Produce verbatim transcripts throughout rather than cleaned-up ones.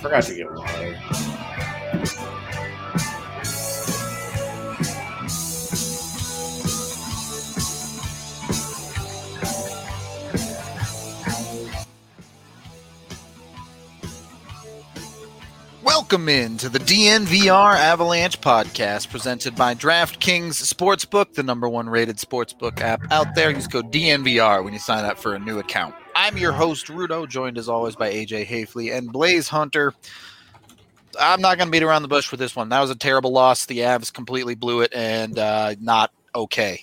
forgot to get water. Welcome in to the D N V R Avalanche podcast presented by DraftKings Sportsbook, the number one rated sportsbook app out there. Use code D N V R when you sign up for a new account. I'm your host, Rudo, joined as always by A J Hafley and Blaze Hunter. I'm not going to beat around the bush with this one. That was a terrible loss. The Avs completely blew it and uh, not okay.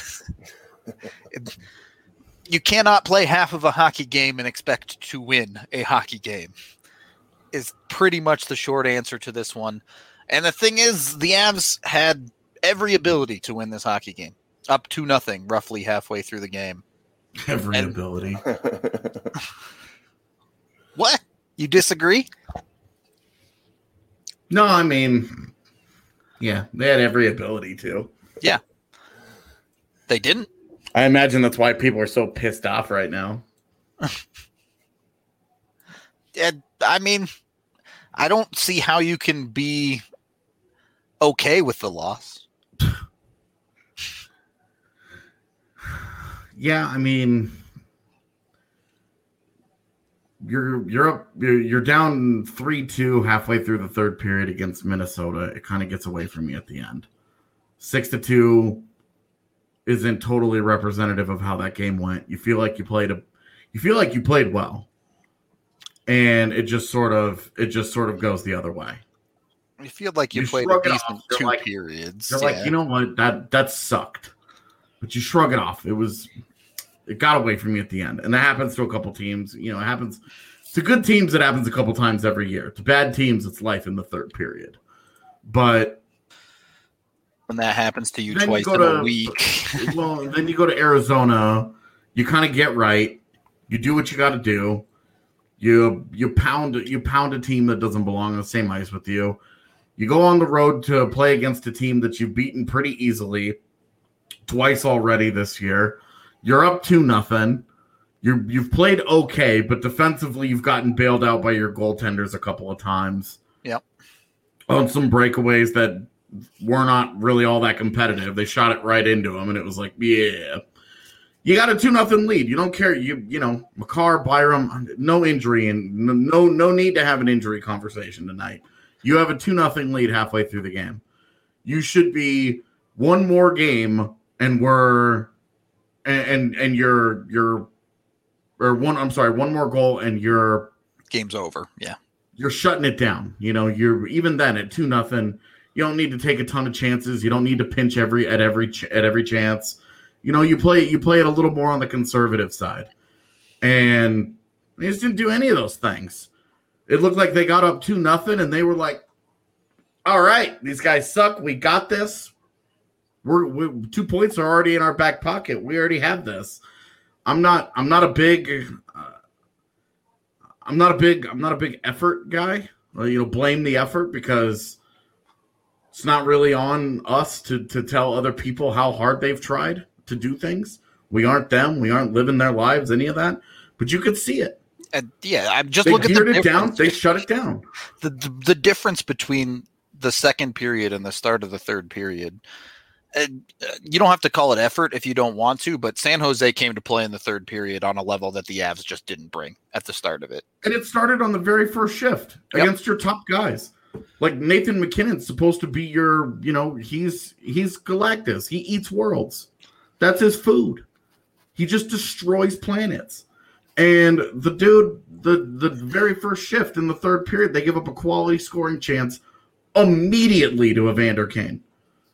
You cannot play half of a hockey game and expect to win a hockey game. Is pretty much the short answer to this one. And the thing is, the Avs had every ability to win this hockey game. Up to nothing, roughly halfway through the game. Every and, ability. What? You disagree? No, I mean, yeah, they had every ability to. Yeah. They didn't? I imagine that's why people are so pissed off right now. And, I mean, I don't see how you can be okay with the loss. Yeah, I mean, you're you're up you're, you're down three two halfway through the third period against Minnesota. It kind of gets away from you at the end. Six to two isn't totally representative of how that game went. You feel like you played a you feel like you played well. And it just sort of it just sort of goes the other way. You feel like you, you played a decent two like, periods. You're yeah. like, you know what, that that sucked. But you shrug it off. It was it got away from you at the end. And that happens to a couple teams. You know, it happens to good teams, it happens a couple times every year. To bad teams, it's life in the third period. But when that happens to you twice you in to, a week. Well, then you go to Arizona, you kind of get right, you do what you gotta do. You you pound you pound a team that doesn't belong on the same ice with you. You go on the road to play against a team that you've beaten pretty easily twice already this year. You're up two nothing. You you've played okay, but defensively you've gotten bailed out by your goaltenders a couple of times. Yep. On some breakaways that were not really all that competitive. They shot it right into them, and it was like, yeah. You got a two nothing lead. You don't care. You you know, Makar, Byram, no injury, and no no need to have an injury conversation tonight. You have a two nothing lead halfway through the game. You should be one more game, and we're and and, and you're you're or one. I'm sorry, one more goal, and you're game's over. Yeah, you're shutting it down. You know, you're even then at two nothing. You don't need to take a ton of chances. You don't need to pinch every at every ch- at every chance. You know, you play you play it a little more on the conservative side. And they just didn't do any of those things. It looked like they got up two nothing, and they were like, all right, these guys suck. We got this. We're we, two points are already in our back pocket. We already have this. I'm not I'm not a big uh, I'm not a big I'm not a big effort guy. Well, you know, blame the effort because it's not really on us to to tell other people how hard they've tried to do things. We aren't them. We aren't living their lives, any of that. But you could see it. And yeah, I'm just they looking at the it down. They shut it down. The, the the difference between the second period and the start of the third period. And you don't have to call it effort if you don't want to, but San Jose came to play in the third period on a level that the Avs just didn't bring at the start of it. And it started on the very first shift yep. against your top guys. Like Nathan McKinnon's supposed to be your, you know, he's he's Galactus. He eats worlds. That's his food. He just destroys planets. And the dude, the, the very first shift in the third period, they give up a quality scoring chance immediately to Evander Kane.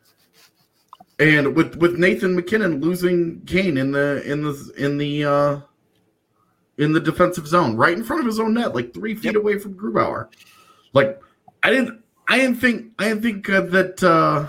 And with, with Nathan McKinnon losing Kane in the in the in the uh, in the defensive zone, right in front of his own net, like three feet yep. away from Grubauer. Like I didn't I didn't think I didn't think uh, that uh,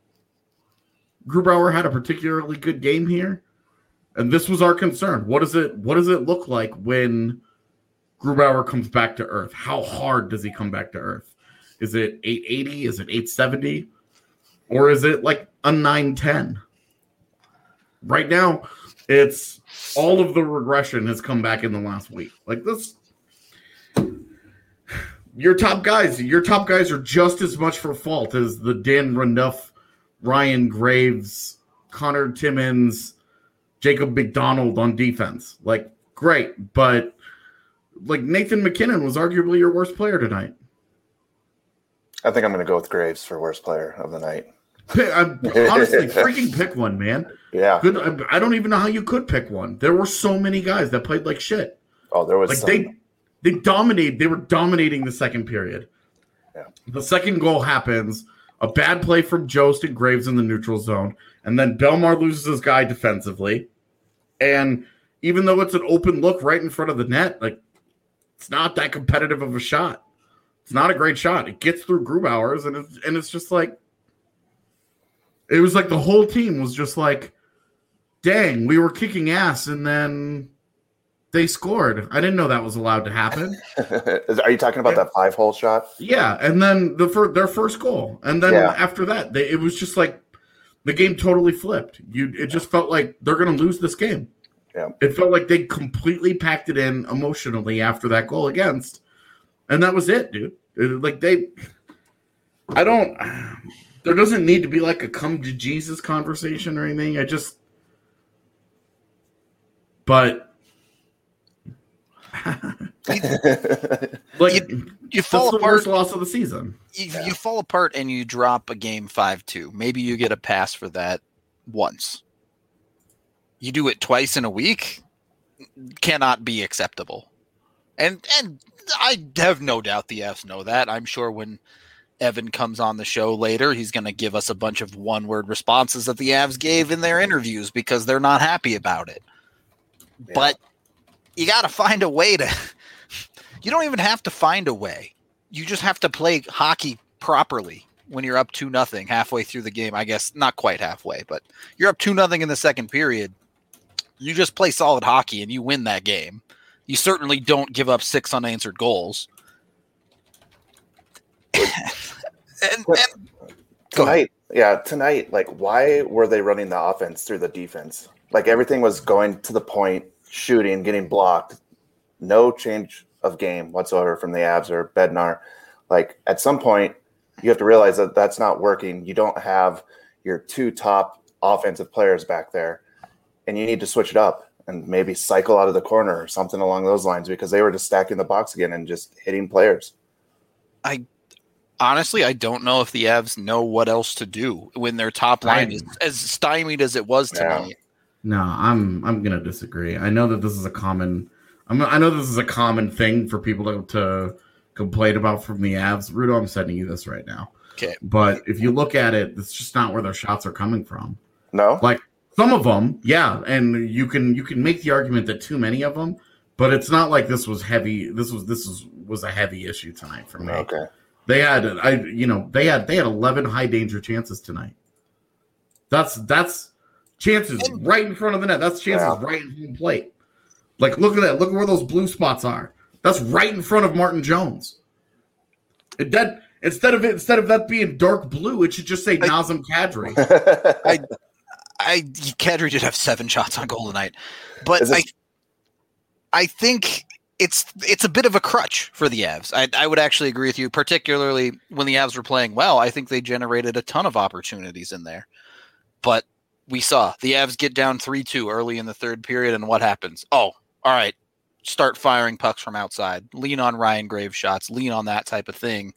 Grubauer had a particularly good game here. And this was our concern. What does it what does it look like when Grubauer comes back to earth? How hard does he come back to earth? Is it eight eighty? Is it eight seventy? Or is it like a nine ten? Right now, it's all of the regression has come back in the last week. Like this, you your top guys, your top guys are just as much for fault as the Dan Renouf, Ryan Graves, Connor Timmins, Jacob McDonald on defense. Like, great, but like Nathan McKinnon was arguably your worst player tonight. I think I'm going to go with Graves for worst player of the night. Pick, I'm, honestly, freaking pick one, man. Yeah. Good. I, I don't even know how you could pick one. There were so many guys that played like shit. Oh, there was like some. they they dominated. They were dominating the second period. Yeah. The second goal happens. A bad play from Jost and Graves in the neutral zone, and then Belmar loses his guy defensively. And even though it's an open look right in front of the net, like it's not that competitive of a shot. It's not a great shot. It gets through Grubauer's, and it's and it's just like it was like the whole team was just like, dang, we were kicking ass, and then they scored. I didn't know that was allowed to happen. Are you talking about that five-hole shot? Yeah, and then the fir- their first goal, and then Yeah. after that, they, it was just like the game totally flipped. You, it just felt like they're going to lose this game. Yeah. It felt like they completely packed it in emotionally after that goal against, and that was it, dude. It- like they, I don't. There doesn't need to be like a come to Jesus conversation or anything. I just, but. like You, you fall that's the apart. worst loss of the season. You, you fall apart and you drop a game five two. Maybe you get a pass for that once. You do it twice in a week, cannot be acceptable. And and I have no doubt the Fs know that. I'm sure when Evan comes on the show later, he's going to give us a bunch of one-word responses that the Avs gave in their interviews because they're not happy about it. Yeah. But you got to find a way to – you don't even have to find a way. You just have to play hockey properly when you're up two nothing halfway through the game. I guess not quite halfway, but you're up two nothing in the second period. You just play solid hockey and you win that game. You certainly don't give up six unanswered goals. and, and Tonight, yeah, tonight, like, why were they running the offense through the defense? Like, everything was going to the point, shooting, getting blocked. No change of game whatsoever from the Avs or Bednar. Like, at some point, you have to realize that that's not working. You don't have your two top offensive players back there, and you need to switch it up and maybe cycle out of the corner or something along those lines because they were just stacking the box again and just hitting players. I honestly, I don't know if the Avs know what else to do when their top line is as stymied as it was tonight. Yeah. No, I'm I'm gonna disagree. I know that this is a common. I'm, I know this is a common thing for people to, to complain about from the Avs. Rudo, I'm sending you this right now. Okay, but if you look at it, it's just not where their shots are coming from. No, like some of them, yeah, and you can you can make the argument that too many of them, but it's not like this was heavy. This was this was was a heavy issue tonight for me. Okay, they had I you know they had they had eleven high danger chances tonight. That's that's. Chances right in front of the net. That's chances yeah. right in home plate. Like, look at that. Look at where those blue spots are. That's right in front of Martin Jones. It, that, instead of it, instead of that being dark blue, it should just say I, Nazem Kadri. I, I, Kadri did have seven shots on goal tonight, but this- I, I think it's it's a bit of a crutch for the Avs. I, I would actually agree with you, particularly when the Avs were playing well. I think they generated a ton of opportunities in there, but. We saw the Avs get down three two early in the third period, and what happens? Oh, all right, start firing pucks from outside. Lean on Ryan Graves shots. Lean on that type of thing.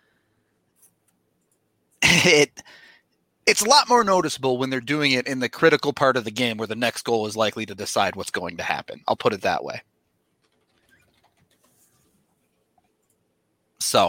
It It's a lot more noticeable when they're doing it in the critical part of the game where the next goal is likely to decide what's going to happen. I'll put it that way. So,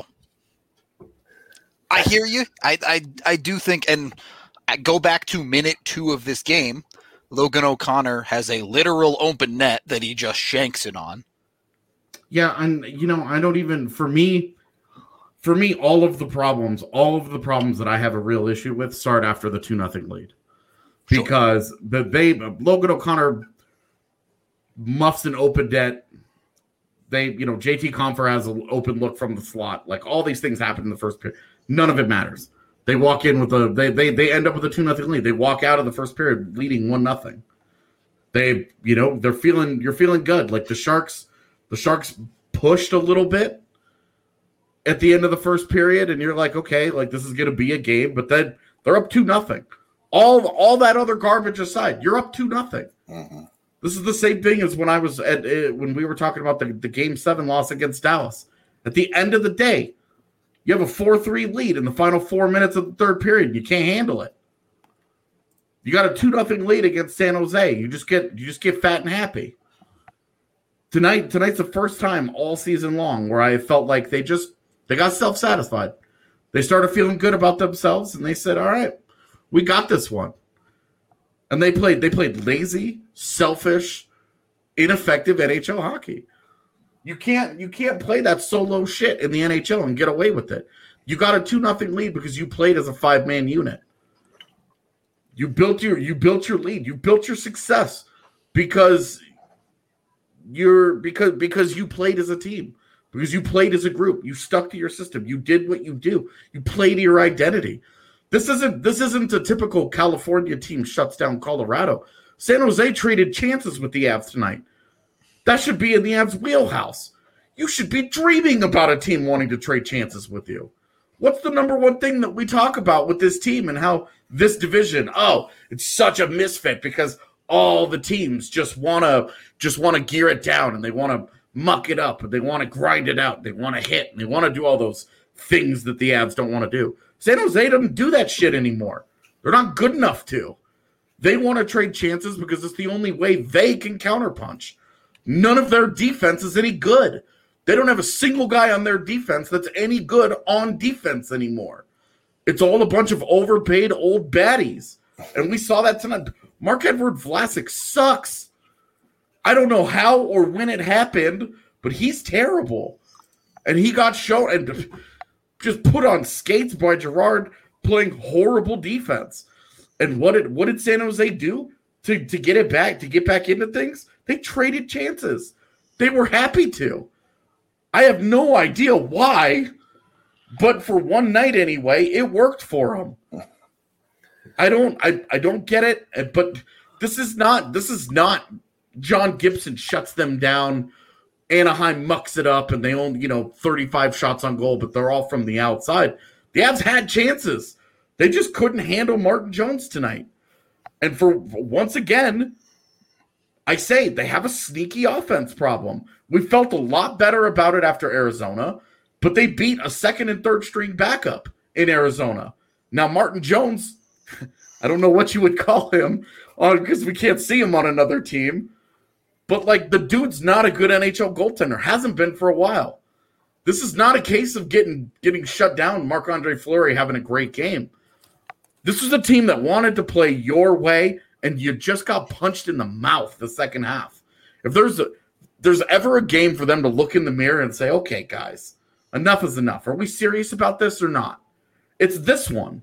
I hear you. I I, I do think, and I go back to minute two of this game, Logan O'Connor has a literal open net that he just shanks it on. Yeah, and you know, I don't even for me, for me, all of the problems, all of the problems that I have a real issue with start after the two nothing lead, because sure. the they Logan O'Connor muffs an open net. They, you know, J T Compher has an open look from the slot. Like all these things happen in the first period. None of it matters. They walk in with a they they they end up with a two nothing lead. They walk out of the first period leading one nothing. They, you know, they're feeling you're feeling good. Like the Sharks, the Sharks pushed a little bit, at the end of the first period, and you're like, okay, like this is going to be a game, but then they're up two nothing. All all that other garbage aside, you're up two nothing. Mm-hmm. This is the same thing as when I was at uh, when we were talking about the, the game seven loss against Dallas. At the end of the day, you have a four three lead in the final four minutes of the third period. You can't handle it. You got a two nothing lead against San Jose. You just get you just get fat and happy. Tonight, tonight's the first time all season long where I felt like they just they got self-satisfied. They started feeling good about themselves, and they said, all right, we got this one. And they played they played lazy, selfish, ineffective N H L hockey. You can't you can't play that solo shit in the N H L and get away with it. You got a two nothing lead because you played as a five-man unit. You built your you built your lead. You built your success because you're because because you played as a team. Because you played as a group. You stuck to your system. You did what you do. You played to your identity. This isn't this isn't a typical California team shuts down Colorado. San Jose traded chances with the Avs tonight. That should be in the Avs' wheelhouse. You should be dreaming about a team wanting to trade chances with you. What's the number one thing that we talk about with this team and how this division, oh, it's such a misfit because all the teams just want to just want to gear it down and they want to muck it up and they want to grind it out. They want to hit and they want to do all those things that the Avs don't want to do. San Jose doesn't do that shit anymore. They're not good enough to. They want to trade chances because it's the only way they can counterpunch. None of their defense is any good. They don't have a single guy on their defense that's any good on defense anymore. It's all a bunch of overpaid old baddies. And we saw that tonight. Marc-Edouard Vlasic sucks. I don't know how or when it happened, but he's terrible. And he got shown and just put on skates by Gerard playing horrible defense. And what did what did San Jose do to, to get it back, to get back into things? They traded chances. They were happy to. I have no idea why, but for one night anyway, it worked for them. I don't I, I don't get it, but this is not this is not John Gibson shuts them down. Anaheim mucks it up and they own, you know, thirty-five shots on goal, but they're all from the outside. The Avs had chances. They just couldn't handle Martin Jones tonight. And for once again, I say they have a sneaky offense problem. We felt a lot better about it after Arizona, but they beat a second and third string backup in Arizona. Now, Martin Jones, I don't know what you would call him because we can't see him on another team. But, like, the dude's not a good N H L goaltender. Hasn't been for a while. This is not a case of getting getting shut down, Marc-Andre Fleury having a great game. This was a team that wanted to play your way, and you just got punched in the mouth the second half. If there's a, there's ever a game for them to look in the mirror and say, okay, guys, enough is enough. Are we serious about this or not? It's this one.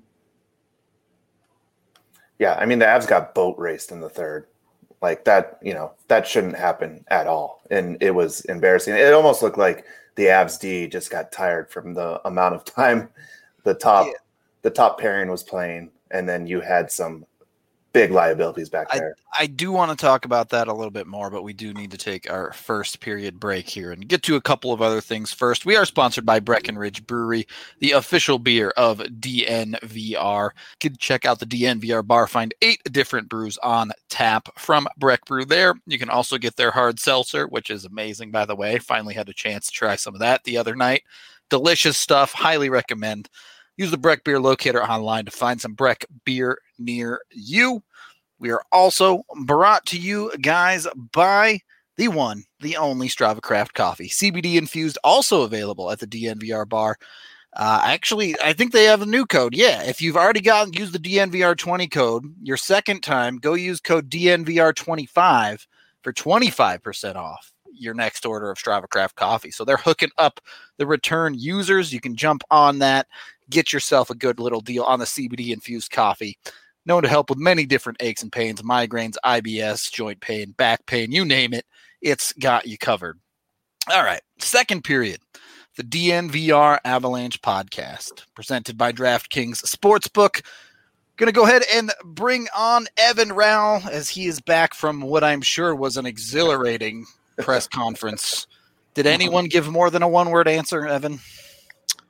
Yeah, I mean, the Avs got boat raced in the third. Like that, you know, that shouldn't happen at all. And it was embarrassing. It almost looked like the Avs D just got tired from the amount of time the top yeah. the top pairing was playing. And then you had some big liabilities back there. I, I do want to talk about that a little bit more, but we do need to take our first period break here and get to a couple of other things first. We are sponsored by Breckenridge Brewery, the official beer of D N V R. You can check out the D N V R bar, find eight different brews on tap from Breck Brew there. You can also get their hard seltzer, which is amazing, by the way. Finally had a chance to try some of that the other night. Delicious stuff. Highly recommend. Use the Breck Beer Locator online to find some Breck beer near you. We are also brought to you guys by the one, the only Strava Craft Coffee. C B D infused, also available at the D N V R bar. Uh, actually, I think they have a new code. Yeah, if you've already gotten, use the D N V R twenty code. Your second time, go use code D N V R twenty-five for twenty-five percent off your next order of Strava Craft Coffee. So they're hooking up the return users. You can jump on that. Get yourself a good little deal on the C B D-infused coffee. Known to help with many different aches and pains, migraines, I B S, joint pain, back pain, you name it. It's got you covered. All right, second period. The D N V R Avalanche podcast, presented by DraftKings Sportsbook. Going to go ahead and bring on Evan Rowell as he is back from what I'm sure was an exhilarating press conference. Did anyone give more than a one-word answer, Evan?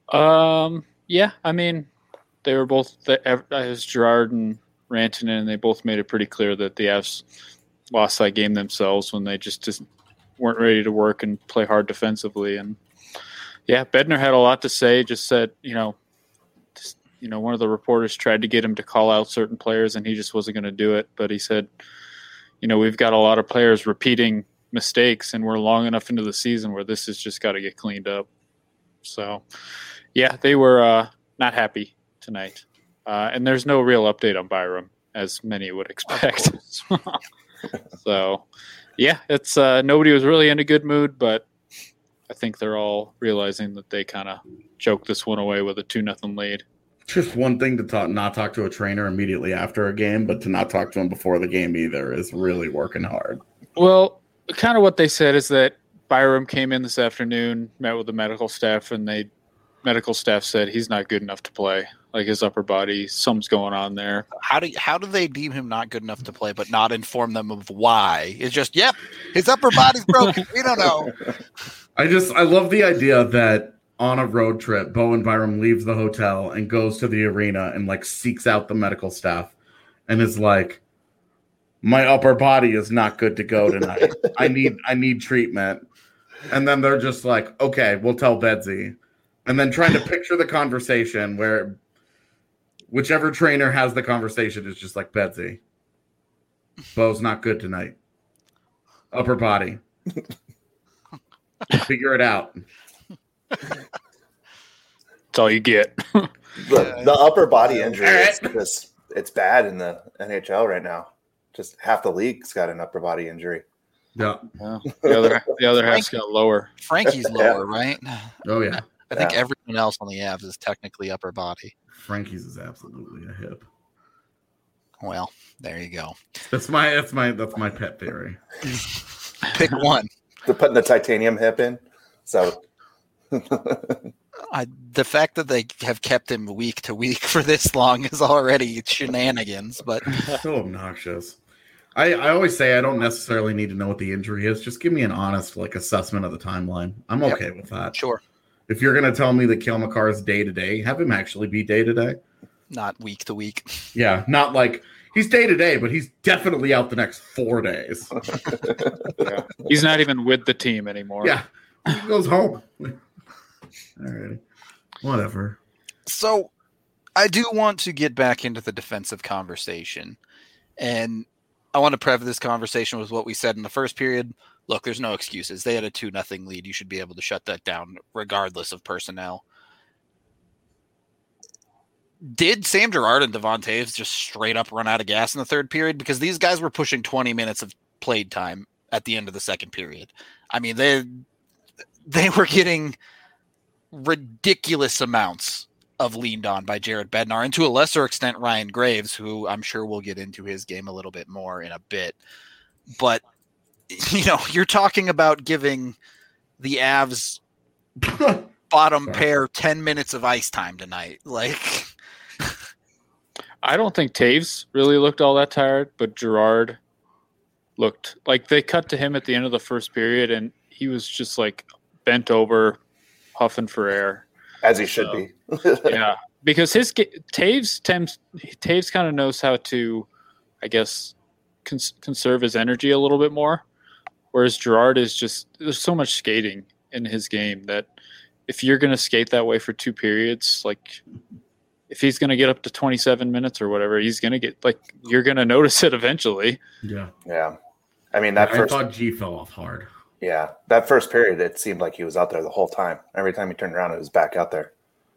Um, yeah, I mean, they were both the, as Girard and Rantanen, and they both made it pretty clear that the Avs lost that game themselves when they just, just weren't ready to work and play hard defensively. And yeah, Bednar had a lot to say. Just said, you know, just, you know, one of the reporters tried to get him to call out certain players, and he just wasn't going to do it. But he said, you know, we've got a lot of players repeating mistakes, and we're long enough into the season where this has just got to get cleaned up. So, yeah, they were uh, not happy tonight. Uh, and there's no real update on Byram, as many would expect. So, yeah, it's uh, nobody was really in a good mood, but I think they're all realizing that they kind of choked this one away with a two nothing lead. Just one thing to talk, not talk to a trainer immediately after a game, but to not talk to him before the game either is really working hard. Well, kind of what they said is that Byram came in this afternoon, met with the medical staff, and they medical staff said he's not good enough to play. Like his upper body, something's going on there. How do how do they deem him not good enough to play, but not inform them of why? It's just, yep, his upper body's broken. We don't know. I just I love the idea that on a road trip, Bowen Byram leaves the hotel and goes to the arena and like seeks out the medical staff and is like, my upper body is not good to go tonight. I need I need treatment. And then they're just like, okay, we'll tell Bedsy. And then trying to picture the conversation where whichever trainer has the conversation is just like, Bedsy, Bo's not good tonight. Upper body. Figure it out. That's all you get. the, the upper body injury is just, it's bad in the N H L right now. Just half the league's got an upper body injury. Yeah. yeah. The other the other half's got lower. Frankie's lower, right? Oh, yeah. I think Yeah. everyone else on the Avs is technically upper body. Frankie's is absolutely a hip. Well, there you go. That's my that's my that's my pet theory. Pick one. They're putting the titanium hip in. So I, the fact that they have kept him week to week for this long is already shenanigans, but So obnoxious. I, I always say I don't necessarily need to know what the injury is. Just give me an honest like assessment of the timeline. I'm Yep. okay with that. sure, If you're going to tell me that Cale Makar is day to day, have him actually be day to day. not week to week. Yeah, not like he's day to day, but he's definitely out the next four days. Yeah. He's not even with the team anymore. Yeah, he goes home. All right, whatever. So I do want to get back into the defensive conversation, and I want to preface this conversation with what we said in the first period. Look, there's no excuses. They had a two nothing lead. You should be able to shut that down regardless of personnel. Did Sam Girard and Devon Toews just straight up run out of gas in the third period? Because these guys were pushing twenty minutes of played time at the end of the second period. I mean, they they were getting ridiculous amounts of leaned on by Jared Bednar, and to a lesser extent Ryan Graves, who I'm sure we'll get into his game a little bit more in a bit. But, you know, you're talking about giving the Avs bottom Sorry. pair ten minutes of ice time tonight. Like, I don't think Taves really looked all that tired, but Girard looked like they cut to him at the end of the first period, and he was just like bent over, huffing for air. as he should So, be. Yeah, because his ga- Taves Taves, Taves kind of knows how to, I guess, cons- conserve his energy a little bit more, whereas Girard is just there's so much skating in his game that if you're going to skate that way for two periods, like if he's going to get up to twenty-seven minutes or whatever, he's going to get like you're going to notice it eventually. Yeah, Yeah. I mean, that I first, thought G fell off hard. yeah, that first period, it seemed like he was out there the whole time. Every time he turned around, it was back out there.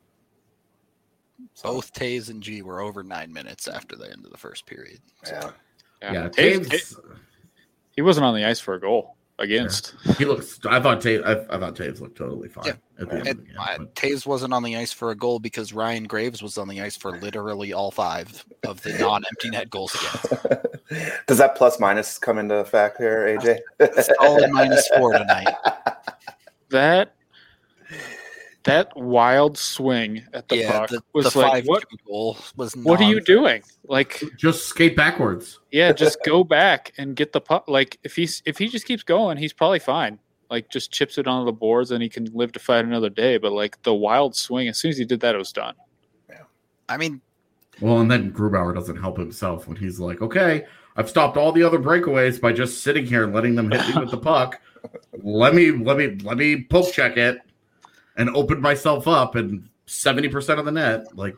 So, both Taves and G were over nine minutes after the end of the first period. So, yeah. Yeah, Taves- Taves. he wasn't on the ice for a goal against. He looks. I thought Taves. I, I thought Taves looked totally fine Yeah. at the end of And the game. uh, but- Taves wasn't on the ice for a goal because Ryan Graves was on the ice for literally all five of the non-empty net goals against. Does that plus minus come into effect here, A J? Solid minus four tonight. That that wild swing at the yeah, puck the, was the like five what? goal was. What are you non- doing? Like, Just skate backwards. yeah, just go back and get the puck. Like, if he's if he just keeps going, he's probably fine. like just chips it onto the boards and he can live to fight another day. But like the wild swing, as soon as he did that, it was done. Yeah. I mean, well, and then Grubauer doesn't help himself when he's like, okay, I've stopped all the other breakaways by just sitting here and letting them hit me with the puck. Let me, let me, let me poke check it and open myself up and seventy percent of the net. Like,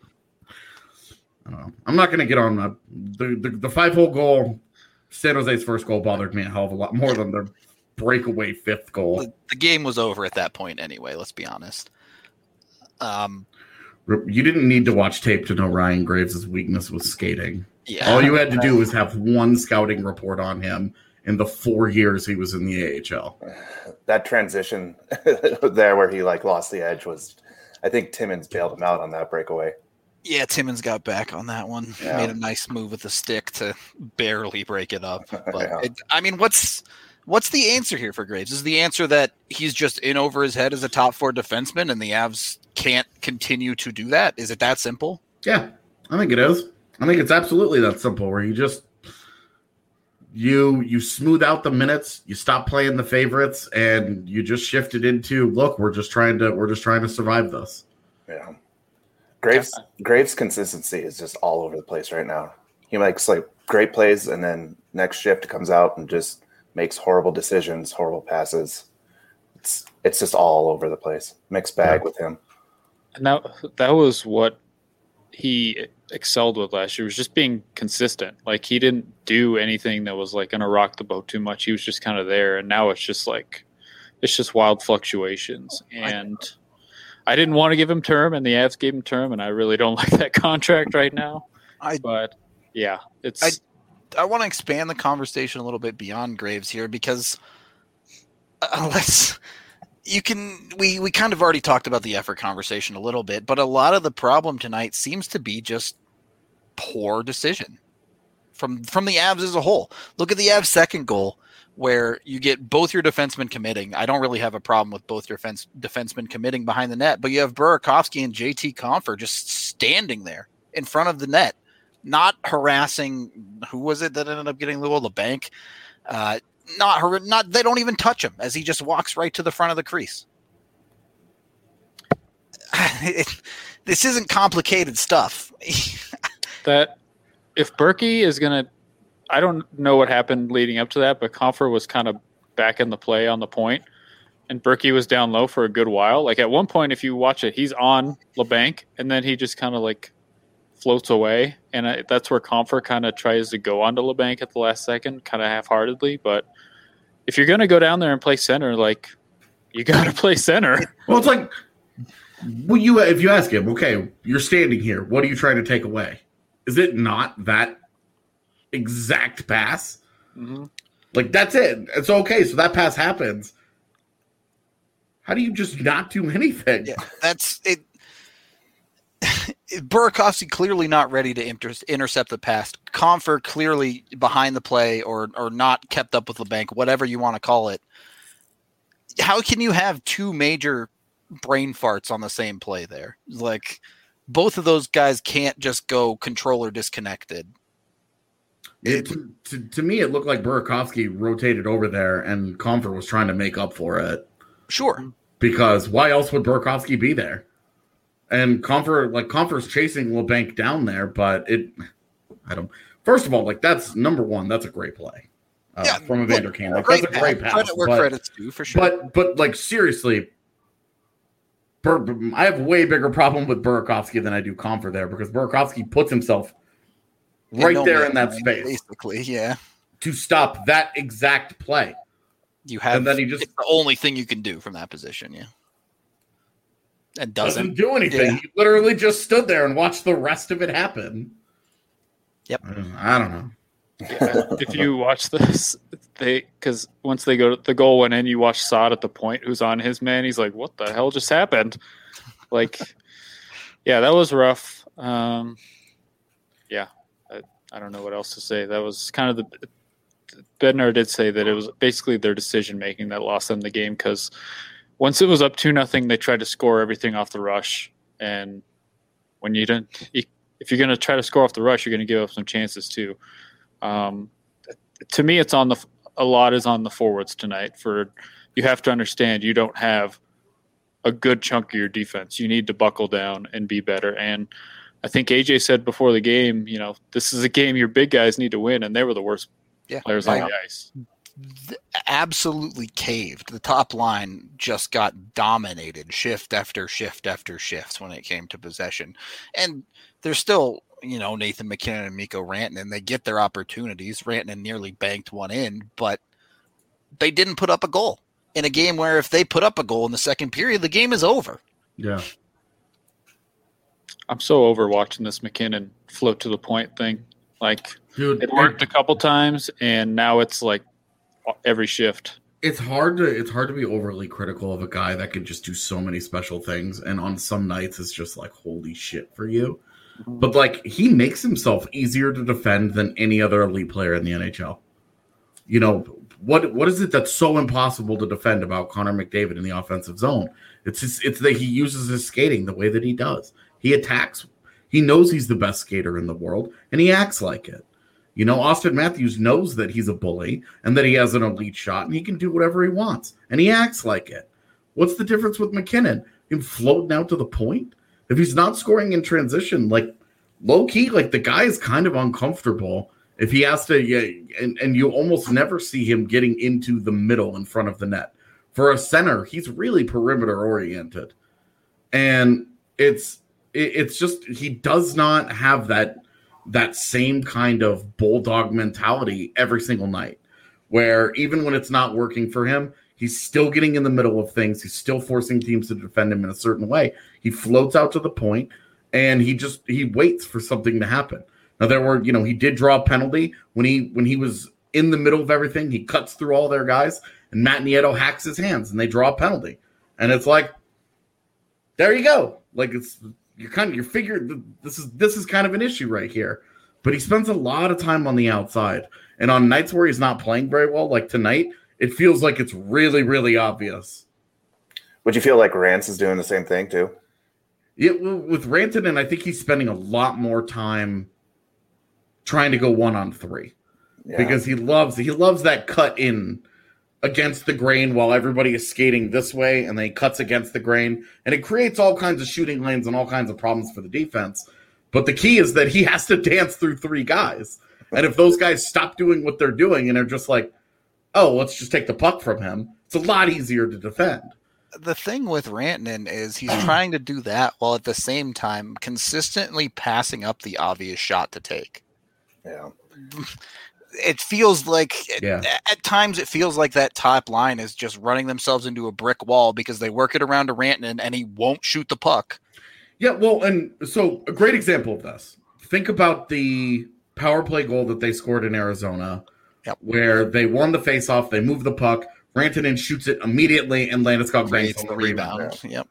I don't know. I'm not going to get on the, the, the, the five hole goal. San Jose's first goal bothered me a hell of a lot more than their breakaway fifth goal. The, the game was over at that point anyway, let's be honest. Um, You didn't need to watch tape to know Ryan Graves' weakness was skating. Yeah. All you had to do was have one scouting report on him in the four years he was in the A H L. That transition there where he like lost the edge was, I think Timmins bailed him out on that breakaway. Yeah, Timmins got back on that one. Yeah. Made a nice move with the stick to barely break it up. But Yeah. it, I mean, what's what's the answer here for Graves? Is the answer that he's just in over his head as a top four defenseman and the Avs can't continue to do that? Is it that simple? Yeah, I think it is. I think it's absolutely that simple where you just you you smooth out the minutes, you stop playing the favorites, and you just shift it into look, we're just trying to we're just trying to survive this. Yeah. Graves Graves' consistency is just all over the place right now. He makes like great plays and then next shift comes out and just makes horrible decisions, horrible passes. It's it's just all over the place. Mixed bag Yeah. with him. And that that was what he excelled with last year, was just being consistent. Like he didn't do anything that was like going to rock the boat too much. He was just kind of there. And now it's just like, it's just wild fluctuations. And I, I didn't want to give him term and the Avs gave him term. And I really don't like that contract right now. I, but yeah, it's, I, I want to expand the conversation a little bit beyond Graves here because unless you can, we, we kind of already talked about the effort conversation a little bit, but a lot of the problem tonight seems to be just poor decision from, from the Avs as a whole. Look at the Avs second goal where you get both your defensemen committing. I don't really have a problem with both your fence, defensemen committing behind the net, but you have Burakovsky and J T Compher just standing there in front of the net, not harassing. Who was it that ended up getting the goal? The bank. Uh, Not her, not they don't even touch him as he just walks right to the front of the crease. It, this isn't complicated stuff. that if Berkey is going to, I don't know what happened leading up to that, but Compher was kind of back in the play on the point, and Berkey was down low for a good while. Like at one point, if you watch it, he's on LeBanc, and then he just kind of like floats away, and I, that's where Compher kind of tries to go onto LeBanc at the last second, kind of half-heartedly. But if you're going to go down there and play center, like you got to play center. Well, it's like, well, you if you ask him, okay, you're standing here. What are you trying to take away? Is it not that exact pass? Mm-hmm. Like that's it. It's okay. So that pass happens. How do you just not do anything? Yeah, that's it. Burakovsky clearly not ready to inter- intercept the pass. Compher clearly behind the play or or not kept up with the bank, whatever you want to call it. How can you have two major brain farts on the same play there? Like both of those guys can't just go controller disconnected. It, to, to, to me, it looked like Burakovsky rotated over there and Compher was trying to make up for it. Sure. Because why else would Burakovsky be there? And Compher, like Compher's chasing LeBanc down there, but it, I don't. First of all, like that's number one. That's a great play uh, yeah, from Evander Kane. Like great that's a great pass. pass. Credit where but, credit's due, for sure. But but like seriously, Bur- I have a way bigger problem with Burakovsky than I do Compher there because Burakovsky puts himself right no there in that line, space, basically. Yeah, to stop that exact play. You have, and then he just it's the only thing you can do from that position. Yeah. And doesn't, doesn't do anything. Yeah. He literally just stood there and watched the rest of it happen. Yep. I don't, I don't know. Yeah. If you watch this, they because once they go, the goal went in. You watch Saad at the point, who's on his man. He's like, "What the hell just happened?" Like, yeah, that was rough. Um, yeah, I, I don't know what else to say. That was kind of the. Bednar did say that it was basically their decision making that lost them the game because. Once it was up two nothing, they tried to score everything off the rush, and when you don't, if you're going to try to score off the rush, you're going to give up some chances too. Um, to me, it's on the a lot is on the forwards tonight for you have to understand you don't have a good chunk of your defense. You need to buckle down and be better. And I think A J said before the game, you know, this is a game your big guys need to win, and they were the worst yeah. players I, on the ice. Absolutely caved. The top line just got dominated shift after shift after shift when it came to possession. And there's still, you know, Nathan MacKinnon and Mikko Rantanen, they get their opportunities. Rantanen nearly banked one in, but they didn't put up a goal in a game where if they put up a goal in the second period, the game is over. Yeah. I'm so over watching this MacKinnon float to the point thing. Like, Dude, it worked a couple times, and now it's like every shift. It's hard to it's hard to be overly critical of a guy that can just do so many special things, and on some nights it's just like holy shit for you. But like he makes himself easier to defend than any other elite player in the N H L. You know, what what is it that's so impossible to defend about Connor McDavid in the offensive zone? It's just, it's that he uses his skating the way that he does. He attacks. He knows he's the best skater in the world, and he acts like it. You know, Austin Matthews knows that he's a bully and that he has an elite shot and he can do whatever he wants, and he acts like it. What's the difference with MacKinnon? Him floating out to the point? If he's not scoring in transition, like low key, like the guy is kind of uncomfortable if he has to, yeah, and, and you almost never see him getting into the middle in front of the net. For a center, he's really perimeter oriented. And it's it, it's just he does not have that that same kind of bulldog mentality every single night, where even when it's not working for him, he's still getting in the middle of things. He's still forcing teams to defend him in a certain way. He floats out to the point, and he just he waits for something to happen. Now there were, you know, he did draw a penalty when he when he was in the middle of everything. He cuts through all their guys, and Matt Nieto hacks his hands, and they draw a penalty. And it's like, there you go. Like it's you're kind of you're figuring this is this is kind of an issue right here. But he spends a lot of time on the outside, and on nights where he's not playing very well, like tonight, it feels like it's really, really obvious. Would you feel like Rance is doing the same thing too? Yeah, well, with Rantanen, I think he's spending a lot more time trying to go one on three yeah. because he loves he loves that cut in against the grain while everybody is skating this way, and then he cuts against the grain, and it creates all kinds of shooting lanes and all kinds of problems for the defense. But the key is that he has to dance through three guys, and if those guys stop doing what they're doing and are just like, oh, let's just take the puck from him, it's a lot easier to defend. The thing with Rantanen is he's trying to do that while at the same time consistently passing up the obvious shot to take. Yeah. It feels like yeah. at times it feels like that top line is just running themselves into a brick wall because they work it around to Rantanen and he won't shoot the puck. Yeah, well, and so a great example of this. Think about the power play goal that they scored in Arizona, yep. where they won the faceoff, they move the puck, Rantanen shoots it immediately, and Landeskog banks on the rebound. rebound. Yep.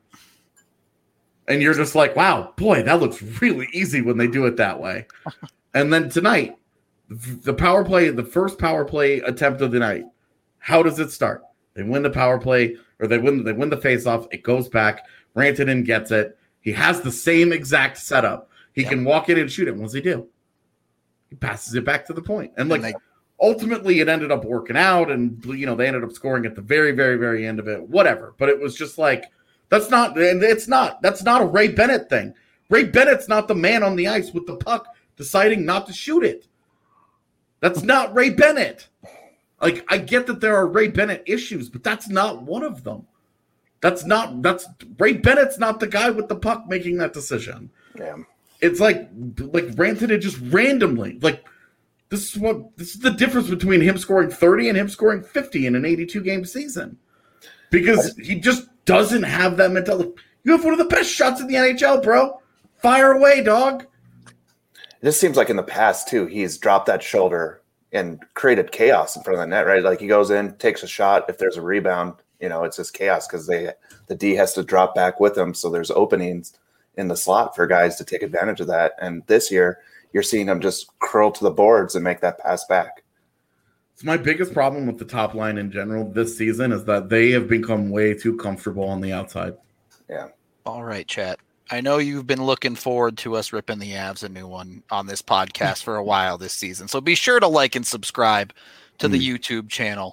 And you're just like, wow, boy, that looks really easy when they do it that way. And then tonight, the power play, the first power play attempt of the night, how does it start? They win the power play, or they win, they win the faceoff, it goes back, Rantanen gets it. He has the same exact setup. He yep. can walk in and shoot it. What does he do? He passes it back to the point. And, like, and they, ultimately, it ended up working out, and, you know, they ended up scoring at the very, very, very end of it. Whatever. But it was just like, that's not, and it's not, that's not a Ray Bennett thing. Ray Bennett's not the man on the ice with the puck deciding not to shoot it. That's not Ray Bennett. Like, I get that there are Ray Bennett issues, but that's not one of them. That's not, that's, Ray Bennett's not the guy with the puck making that decision. Yeah. It's like, like Rantanen just randomly, like, this is what, this is the difference between him scoring thirty and him scoring fifty in an eighty-two game season. Because he just doesn't have that mentality. You have one of the best shots in the N H L, bro. Fire away, dog. It just seems like in the past, too, he's dropped that shoulder and created chaos in front of the net, right? Like he goes in, takes a shot. If there's a rebound, you know, it's just chaos because they the D has to drop back with him. So there's openings in the slot for guys to take advantage of that. And this year, you're seeing them just curl to the boards and make that pass back. It's my biggest problem with the top line in general this season is that they have become way too comfortable on the outside. Yeah. All right, chat. I know you've been looking forward to us ripping the Avs a new one on this podcast for a while this season. So be sure to like and subscribe to the mm. YouTube channel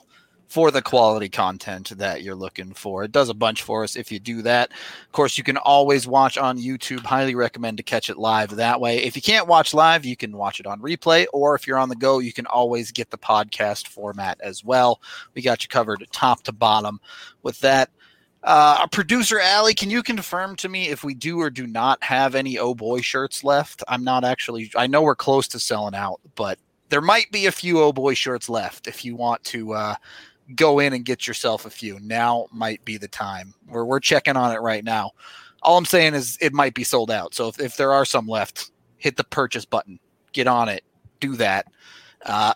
for the quality content that you're looking for. It does a bunch for us if you do that. Of course, you can always watch on YouTube. Highly recommend to catch it live that way. If you can't watch live, you can watch it on replay, or if you're on the go, you can always get the podcast format as well. We got you covered top to bottom with that. Uh, our producer, Allie, can you confirm to me if we do or do not have any Oh Boy shirts left? I'm not actually, I know we're close to selling out, but there might be a few Oh Boy shirts left if you want to uh, go in and get yourself a few. Now might be the time. We're, we're checking on it right now. All I'm saying is it might be sold out. So if, if there are some left, hit the purchase button. Get on it. Do that. Uh,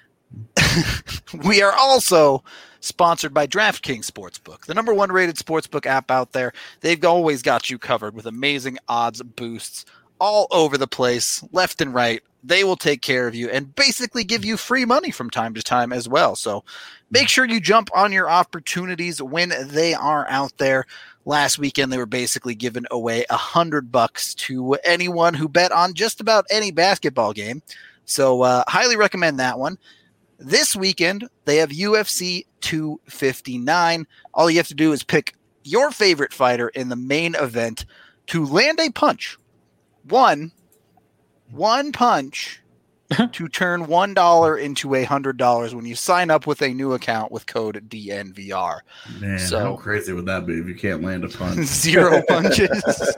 we are also sponsored by DraftKings Sportsbook, the number one rated sportsbook app out there. They've always got you covered with amazing odds boosts all over the place, left and right. They will take care of you and basically give you free money from time to time as well. So make sure you jump on your opportunities when they are out there. Last weekend, they were basically giving away a hundred bucks to anyone who bet on just about any basketball game. So uh, highly recommend that one. This weekend, they have U F C two fifty-nine. All you have to do is pick your favorite fighter in the main event to land a punch. One, one punch to turn one dollar into a hundred dollars when you sign up with a new account with code D N V R. Man, so, how crazy would that be if you can't land a punch? Zero punches.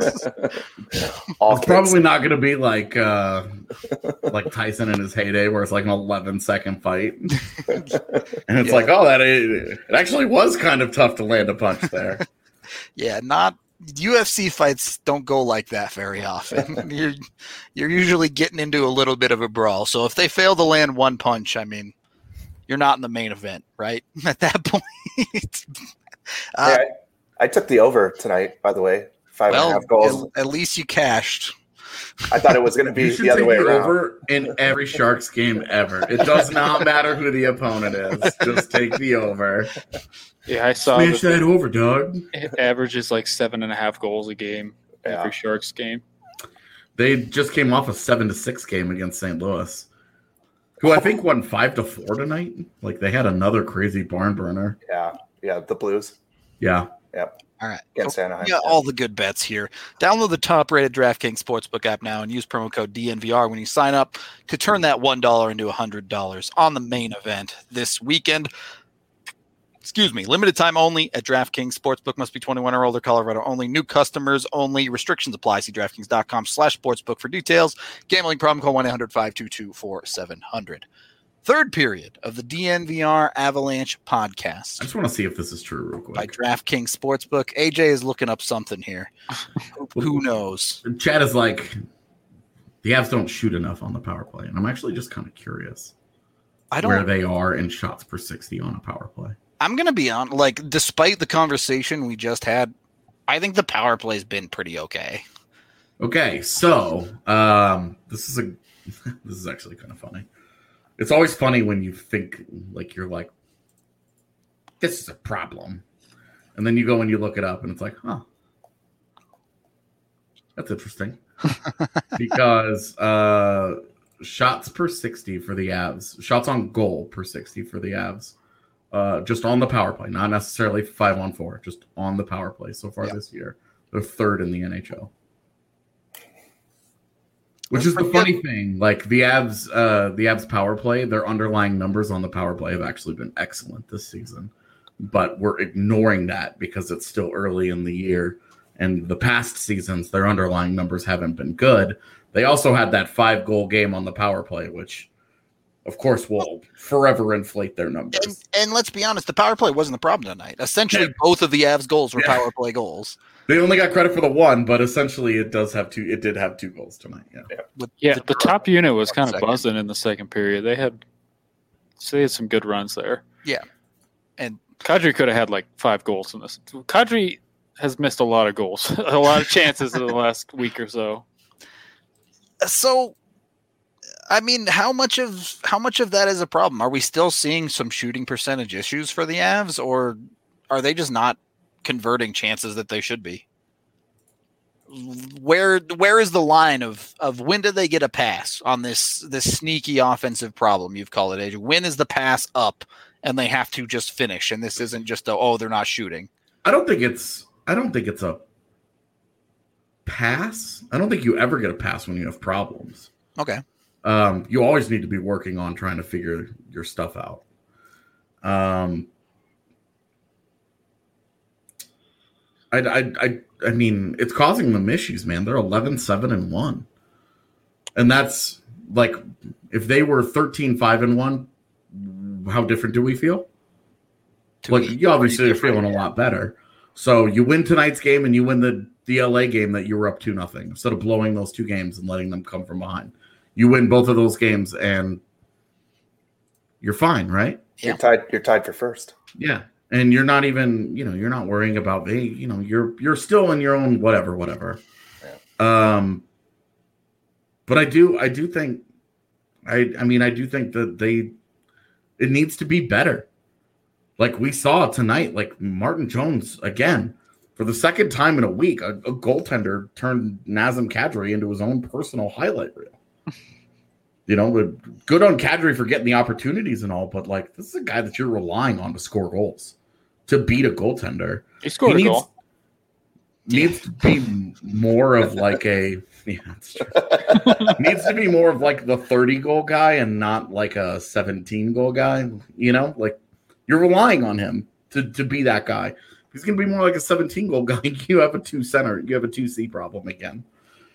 All It's probably not going to be like uh, like Tyson in his heyday, where it's like an eleven second fight, and it's Yeah. like, oh, that it actually was kind of tough to land a punch there. Yeah, not U F C fights don't go like that very often. you're you're usually getting into a little bit of a brawl. So if they fail to land one punch, I mean, you're not in the main event, right? At that point. uh, Yeah, I, I took the over tonight, by the way. Five and a well, half goals. at, at least you cashed. I thought it was going to be You should the other take way the around. over in every Sharks game ever. It does not matter who the opponent is. Just take the over. Yeah, I saw Smash that that over, dog. it averages like seven and a half goals a game Yeah. every Sharks game. They just came off a seven to six game against Saint Louis, who I think won five to four tonight. Like they had another crazy barn burner. Yeah, yeah, the Blues. Yeah. Yep. All right. Against Anaheim. Yeah, all the good bets here. Download the top-rated DraftKings Sportsbook app now and use promo code D N V R when you sign up to turn that one dollar into one hundred dollars on the main event this weekend. Excuse me. Limited time only at DraftKings Sportsbook. Must be twenty-one or older. Colorado only. New customers only. Restrictions apply. See DraftKings.com slash sportsbook for details. Gambling problem, call one eight hundred five two two four seven zero zero. Third period of the D N V R Avalanche podcast I just want to see if this is true real quick. by DraftKings Sportsbook. A J is looking up something here. Who knows? Chad is like, the Avs don't shoot enough on the power play. And I'm actually just kind of curious I where don't. they are in shots per sixty on a power play. I'm gonna be on. Like, despite the conversation we just had, I think the power play's been pretty okay. Okay, so um, this is a this is actually kind of funny. It's always funny when you think like you're like, this is a problem, and then you go and you look it up, and it's like, huh, that's interesting, because uh, shots per sixty for the Avs, shots on goal per sixty for the Avs, uh, just on the power play, not necessarily five on four, just on the power play so far Yep. this year, they're third in the N H L. Which That's is the pretty funny thing. Like the Avs, uh, the Avs power play, their underlying numbers on the power play have actually been excellent this season. But we're ignoring that because it's still early in the year. And the past seasons, their underlying numbers haven't been good. They also had that five goal game on the power play, which, of course, will forever inflate their numbers. And, and let's be honest, the power play wasn't the problem tonight. Essentially, Yeah. both of the Avs goals were Yeah. power play goals. They only got credit for the one, but essentially, it does have two. It did have two goals tonight. Yeah. With Yeah, the top unit was kind of second. buzzing in the second period. They had, so they had some good runs there. Yeah. And Kadri could have had like five goals in this. Kadri has missed a lot of goals, a lot of chances in the last week or so. so, I mean, how much of how much of that is a problem? Are we still seeing some shooting percentage issues for the Avs, or are they just not converting chances that they should be? where where is the line of of when do they get a pass on this this sneaky offensive problem you've called it, A J? When is the pass up and they have to just finish, and this isn't just a, oh, they're not shooting? I don't think it's I don't think it's a pass. I don't think you ever get a pass when you have problems. Okay. Um, you always need to be working on trying to figure your stuff out. Um, I, I, I, I mean, it's causing them issues, man. They're eleven, seven, and one. And that's like, if they were thirteen, five, and one, how different do we feel? To Like, me, you obviously are different, feeling a yeah. lot better. So you win tonight's game and you win the, the L A game that you were up two nothing instead of blowing those two games and letting them come from behind. You win both of those games and you're fine, right? Yeah. You're tied. You're tied for first. Yeah. And you're not even, you know, you're not worrying about, hey, you know, you're you're still in your own whatever, whatever. Yeah. Um, but I do, I do think, I, I mean, I do think that they, it needs to be better. Like we saw tonight, like Martin Jones again, for the second time in a week, a, a goaltender turned Nazem Kadri into his own personal highlight reel. You know, but good on Kadri for getting the opportunities and all, but like this is a guy that you're relying on to score goals, to beat a goaltender. He scored he a needs, goal. Needs to be more of like a yeah, that's true. Needs to be more of like the thirty goal guy and not like a seventeen goal guy. You know, like you're relying on him to, to be that guy. He's going to be more like a seventeen goal guy. You have a two center. You have a two C problem again.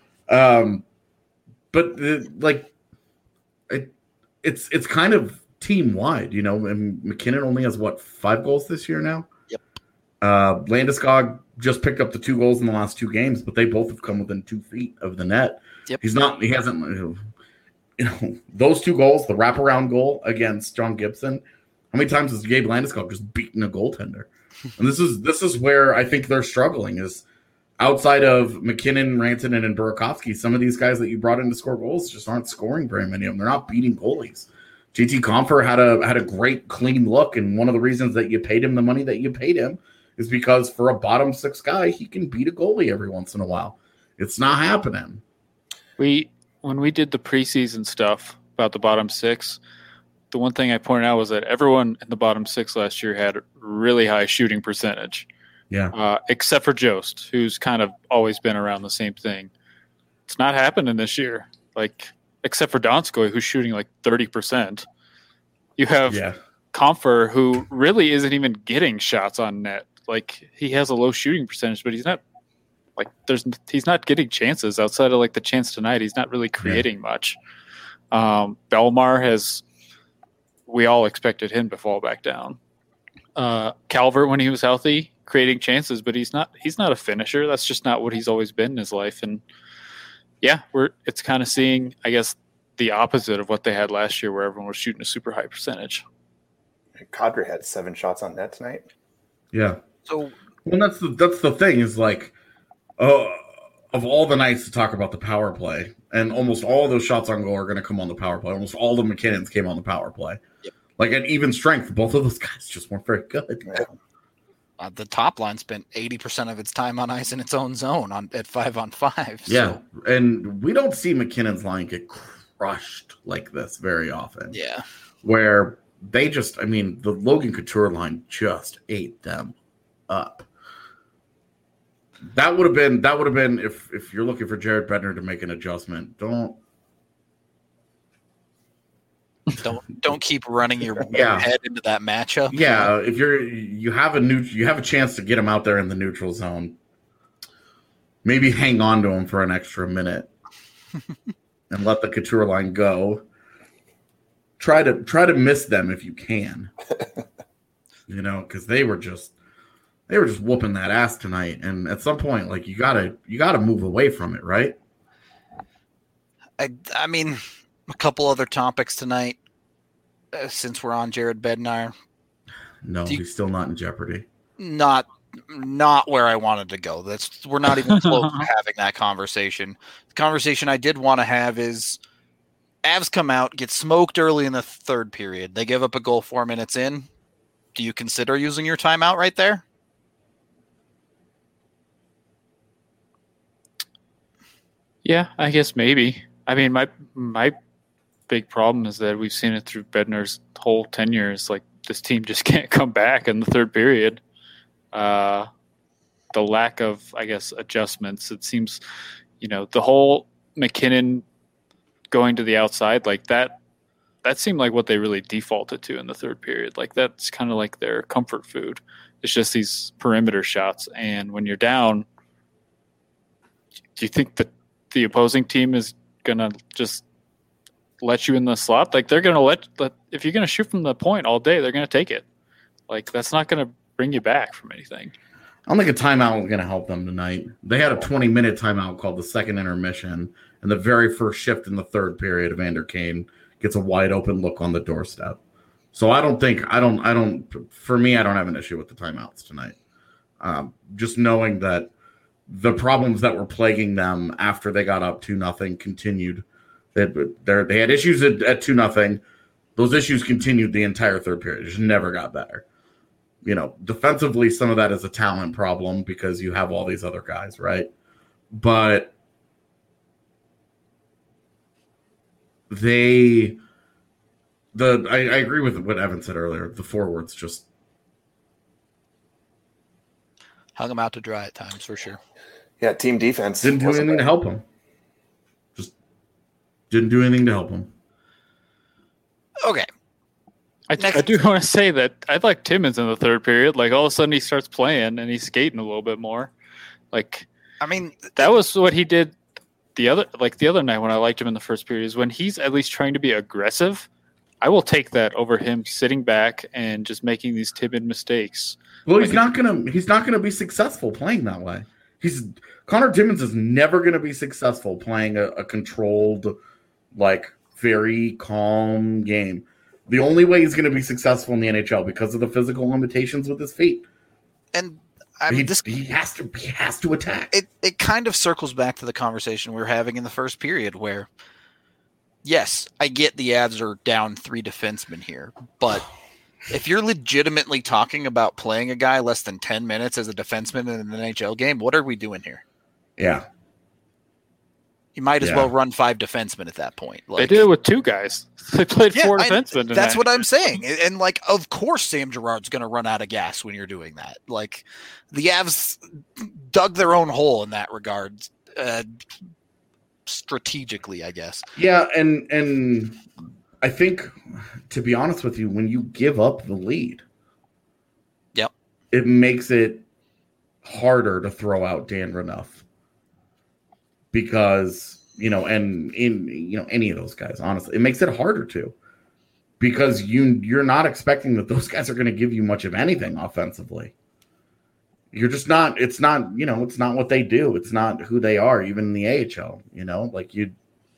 Um, but the, like. It, it's it's kind of team wide, you know. And McKinnon only has what five goals this year now. Yep. Uh, Landeskog just picked up the two goals in the last two games, but they both have come within two feet of the net. Yep. He's not. He hasn't. You know, those two goals, the wraparound goal against John Gibson. How many times has Gabe Landeskog just beaten a goaltender? And this is this is where I think they're struggling is. Outside of McKinnon, Rantanen, and Burakovsky, some of these guys that you brought in to score goals just aren't scoring very many of them. They're not beating goalies. J T Compher had a had a great clean look, and one of the reasons that you paid him the money that you paid him is because for a bottom six guy, he can beat a goalie every once in a while. It's not happening. We when we did the preseason stuff about the bottom six, the one thing I pointed out was that everyone in the bottom six last year had really high shooting percentage. Yeah. Uh, except for Jost, who's kind of always been around the same thing. It's not happening this year. Like, except for Donskoy, who's shooting like thirty percent. You have Yeah. Compher, who really isn't even getting shots on net. Like, he has a low shooting percentage, but he's not like there's he's not getting chances outside of like the chance tonight. He's not really creating yeah. much. Um, Belmar has. We all expected him to fall back down. Uh, Calvert, when he was healthy, creating chances, but he's not he's not a finisher. That's just not what he's always been in his life. And yeah, we're it's kind of seeing, I guess, the opposite of what they had last year where everyone was shooting a super high percentage. Kadri had seven shots on net tonight. Yeah. So well that's the that's the thing is like uh, of all the nights to talk about the power play, and almost all of those shots on goal are gonna come on the power play. Almost all the McKinnons came on the power play. Yep. Like at even strength, both of those guys just weren't very good. Yeah. Uh, the top line spent eighty percent of its time on ice in its own zone on at five on five. So. Yeah, and we don't see McKinnon's line get crushed like this very often. Yeah. Where they just, I mean, the Logan Couture line just ate them up. That would have been, that would have been, if if you're looking for Jared Bednar to make an adjustment, don't. Don't don't keep running your Yeah. head into that matchup. Yeah, if you're you have a new you have a chance to get him out there in the neutral zone. Maybe hang on to him for an extra minute and let the Couture line go. Try to try to miss them if you can. You know, because they were just they were just whooping that ass tonight, and at some point, like you gotta you gotta move away from it, right? I I mean. A couple other topics tonight, uh, since we're on Jared Bednar. No, you, he's still not in jeopardy. Not, not where I wanted to go. That's we're not even close to having that conversation. The conversation I did want to have is, Avs come out, get smoked early in the third period. They give up a goal four minutes in. Do you consider using your timeout right there? Yeah, I guess maybe. I mean, my my big problem is that we've seen it through Bednar's whole tenure. Is like this team just can't come back in the third period. Uh, the lack of, I guess, adjustments. It seems, you know, the whole McKinnon going to the outside like that. That seemed like what they really defaulted to in the third period. Like that's kind of like their comfort food. It's just these perimeter shots, and when you're down, do you think that the opposing team is gonna just let you in the slot? Like they're gonna let, let if you're gonna shoot from the point all day, they're gonna take it. Like that's not gonna bring you back from anything. I don't think a timeout was going to help them tonight. They had a twenty-minute timeout called the second intermission, and the very first shift in the third period, Evander Kane gets a wide open look on the doorstep. So I don't think I don't I don't for me I don't have an issue with the timeouts tonight. Um, just knowing that the problems that were plaguing them after they got up two nothing continued. They they had issues at, at two nothing. Those issues continued the entire third period. It just never got better. You know, defensively, some of that is a talent problem because you have all these other guys, right? But they, the I, I agree with what Evan said earlier. The forwards just hung them out to dry at times for sure. Yeah, team defense didn't do anything bad. to help them. Just didn't do anything to help them. Okay. I, I do want to say that I like Timmins in the third period. Like all of a sudden he starts playing and he's skating a little bit more. Like, I mean, that was what he did the other, like the other night when I liked him in the first period is when he's at least trying to be aggressive. I will take that over him sitting back and just making these timid mistakes. Well, he's not gonna he's not gonna be successful playing that way. He's Connor Timmins is never gonna be successful playing a, a controlled, like very calm game. The only way he's going to be successful in the N H L because of the physical limitations with his feet. And I mean, he, this he has to he has to attack. It it kind of circles back to the conversation we were having in the first period where, yes, I get the Avs are down three defensemen here, but if you're legitimately talking about playing a guy less than ten minutes as a defenseman in an N H L game, what are we doing here? Yeah. You might as yeah. well run five defensemen at that point. Like, they did it with two guys. They played yeah, four defensemen. I, that's what I'm saying. And, like, of course Sam Girard's going to run out of gas when you're doing that. Like, the Avs dug their own hole in that regard, uh, strategically, I guess. Yeah, and and I think, to be honest with you, when you give up the lead, yep, it makes it harder to throw out Dan Renouf. Because, you know, and in, you know, any of those guys, honestly, it makes it harder to, because you, you're not expecting that those guys are going to give you much of anything offensively. You're just not, it's not, you know, it's not what they do. It's not who they are, even in the A H L, you know, like you,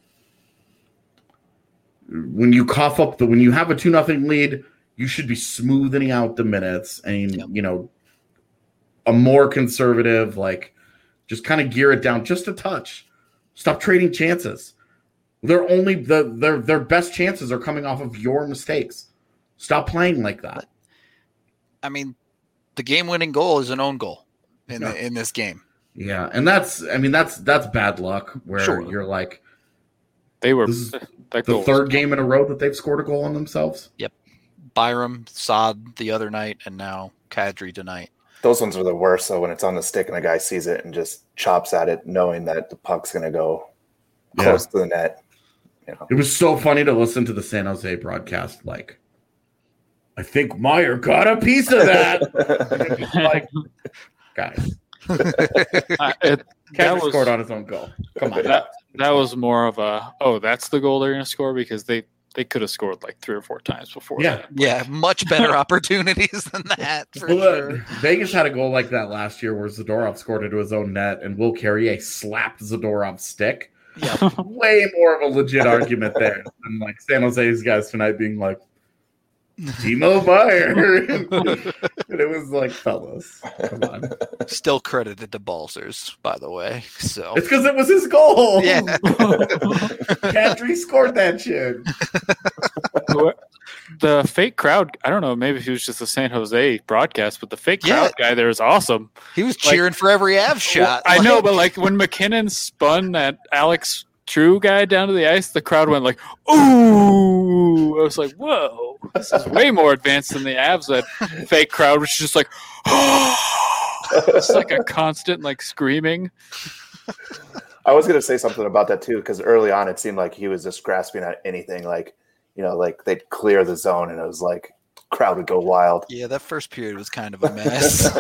when you cough up the, when you have a two nothing lead, you should be smoothing out the minutes and, yep. you know, a more conservative, like, just kind of gear it down just a touch. Stop trading chances. They're only the their their best chances are coming off of your mistakes. Stop playing like that. I mean, the game-winning goal is an own goal in yeah. the, in this game. Yeah, and that's I mean that's that's bad luck where sure. you're like they were this is the third game in a row that they've scored a goal on themselves. Yep. Byram, Saad the other night, and now Kadri tonight. Those ones are the worst. So when it's on the stick and a guy sees it and just chops at it, knowing that the puck's going to go close yeah. to the net. You know. It was so funny to listen to the San Jose broadcast. Like, I think Meyer got a piece of that. like, guys, uh, it, that was, scored on his own goal. Come on, that, that was more of a oh, that's the goal they're going to score because they. They could have scored like three or four times before. Yeah, that. yeah, much better opportunities than that. For well, sure. uh, Vegas had a goal like that last year where Zadorov scored into his own net, and Will Carrier slapped Zadorov's stick. Yeah, way more of a legit argument there than like San Jose's guys tonight being like Timo Meyer, and it was like, fellas, come on. Still credited to Balsers, by the way. So it's because it was his goal. Yeah, Kadri scored that shit. the fake crowd, I don't know, maybe he was just a San Jose broadcast, but the fake crowd Yeah. guy there is awesome. He was cheering like, for every Avs shot. I know, but like when McKinnon spun that Alex True guy down to the ice, the crowd went like, ooh. I was like, whoa, this is way more advanced than the Avs. That fake crowd was just like, it's like a constant like screaming. I was going to say something about that too, because early on it seemed like he was just grasping at anything. Like, you know, like they'd clear the zone and it was like crowd would go wild. Yeah, that first period was kind of a mess.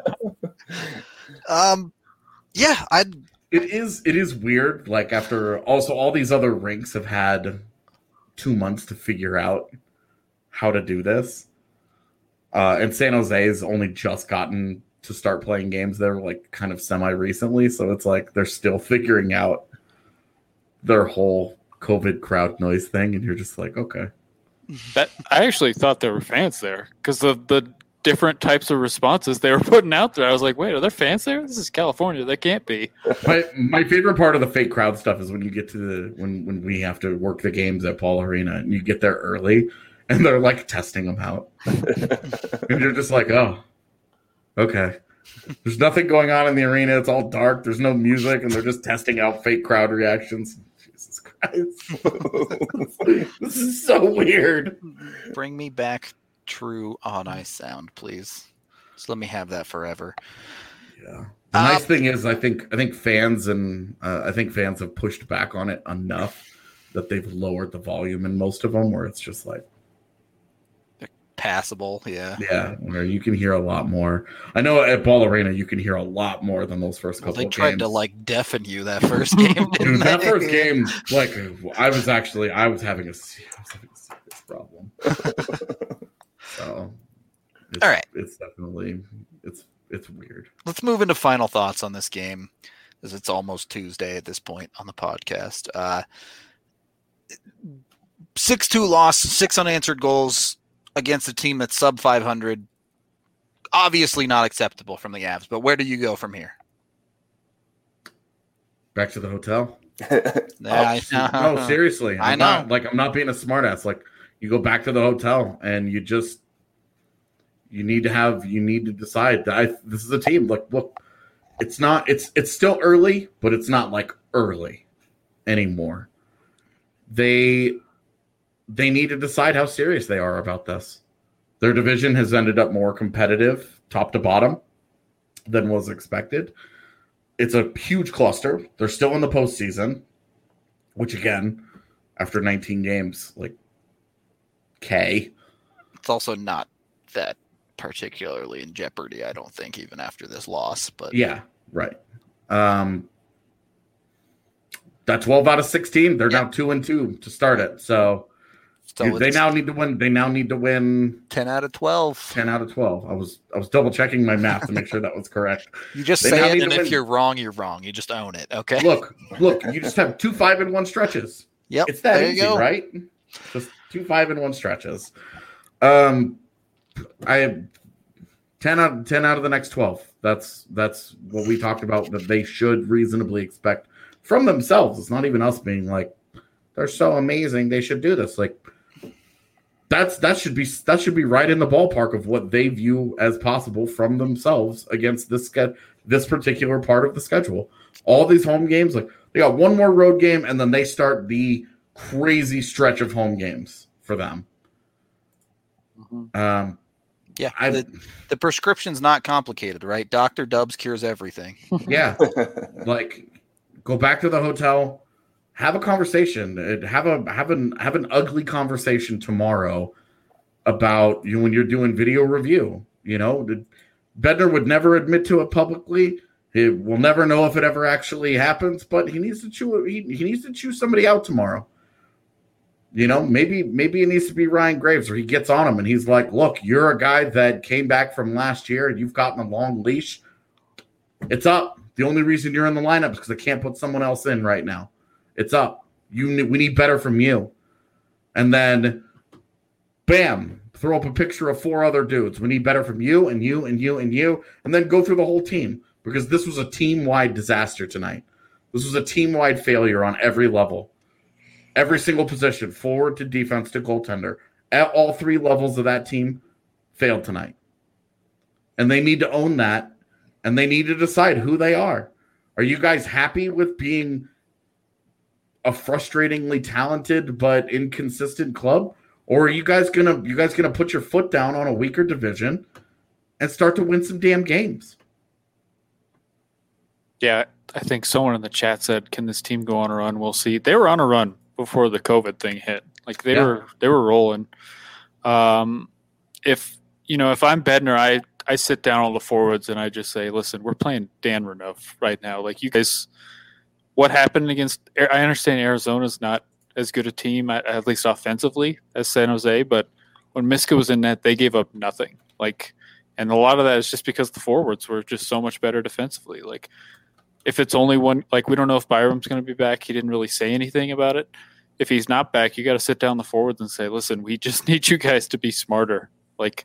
um, yeah, I. It is. It is weird. Like after also all these other rinks have had two months to figure out how to do this, uh, and San Jose has only just gotten to start playing games there, like kind of semi recently. So it's like they're still figuring out their whole COVID crowd noise thing, and you're just like, okay. That I actually thought there were fans there because of the different types of responses they were putting out there. I was like, wait, are there fans there? This is California. They can't be. My my favorite part of the fake crowd stuff is when you get to the when when we have to work the games at Paul Arena and you get there early and they're like testing them out. And you're just like, oh, okay. There's nothing going on in the arena. It's all dark. There's no music, and they're just testing out fake crowd reactions. Jesus Christ. This is so weird. Bring me back True on ice sound, please. Just let me have that forever. Yeah. The um, nice thing is, I think I think fans and uh, I think fans have pushed back on it enough that they've lowered the volume in most of them, where it's just like passable. Yeah, yeah, where you can hear a lot more. I know at Ball Arena you can hear a lot more than those first couple. Well, they of tried games. to like deafen you that first game. Dude, that they? first game, like I was actually I was having a, I was having a serious problem. So, it's, all right, it's definitely it's it's weird. Let's move into final thoughts on this game, as it's almost Tuesday at this point on the podcast. Uh, six two loss, six unanswered goals against a team that's sub five hundred. Obviously not acceptable from the Avs, but where do you go from here? Back to the hotel. Nah, oh, no, seriously. I'm I know. Not, like, I'm not being a smartass. Like, you go back to the hotel and you just, you need to have, you need to decide that I, this is a team. Like, look, it's not, it's, it's still early, but it's not like early anymore. They, they need to decide how serious they are about this. Their division has ended up more competitive, top to bottom, than was expected. It's a huge cluster. They're still in the postseason, which again, after nineteen games, like, okay. It's also not that particularly in jeopardy, I don't think, even after this loss. But yeah, right. Um, that twelve out of sixteen, they're yeah. now two and two to start it. So, so they now need to win. They now need to win ten out of twelve. Ten out of twelve. I was I was double checking my math to make sure that was correct. You just they say it, and if win. You're wrong, you're wrong. You just own it. Okay. Look, look. You just have two five and one stretches. Yep. It's that there easy, you go. Right? Just two five and one stretches. Um, I have ten out ten out of the next twelve. That's that's what we talked about that they should reasonably expect from themselves. It's not even us being like they're so amazing. They should do this. Like that's that should be that should be right in the ballpark of what they view as possible from themselves against this this particular part of the schedule. All these home games, like they got one more road game, and then they start the crazy stretch of home games for them. Mm-hmm. Um, yeah, the, the prescription's not complicated, right? Doctor Dubs cures everything. Yeah, like go back to the hotel, have a conversation, have a have an have an ugly conversation tomorrow about you know, when you're doing video review. You know, Bednar would never admit to it publicly. He will never know if it ever actually happens, but he needs to chew he, he needs to chew somebody out tomorrow. You know, maybe maybe it needs to be Ryan Graves, or he gets on him and he's like, look, you're a guy that came back from last year and you've gotten a long leash. It's up. The only reason you're in the lineup is because I can't put someone else in right now. It's up. You we need better from you. And then, bam, throw up a picture of four other dudes. We need better from you and you and you and you. And then go through the whole team, because this was a team-wide disaster tonight. This was a team-wide failure on every level. Every single position, forward to defense to goaltender, at all three levels of that team failed tonight. And they need to own that, and they need to decide who they are. Are you guys happy with being a frustratingly talented but inconsistent club? Or are you guys gonna you guys gonna put your foot down on a weaker division and start to win some damn games? Yeah, I think someone in the chat said, "Can this team go on a run?" We'll see. They were on a run before the COVID thing hit. Like they Yeah. were they were rolling. Um, if you know, if I'm Bednar, I I sit down all the forwards and I just say, "Listen, we're playing Dan Renouf right now. Like you guys, what happened against? I understand Arizona's not as good a team, at, at least offensively, as San Jose, but when Miska was in net, they gave up nothing. Like, and a lot of that is just because the forwards were just so much better defensively. Like, if it's only one, like we don't know if Byram's going to be back. He didn't really say anything about it. If he's not back, you got to sit down the forwards and say, listen, we just need you guys to be smarter. Like,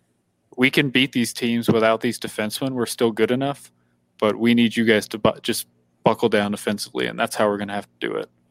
we can beat these teams without these defensemen. We're still good enough, but we need you guys to bu- just buckle down defensively, and that's how we're going to have to do it.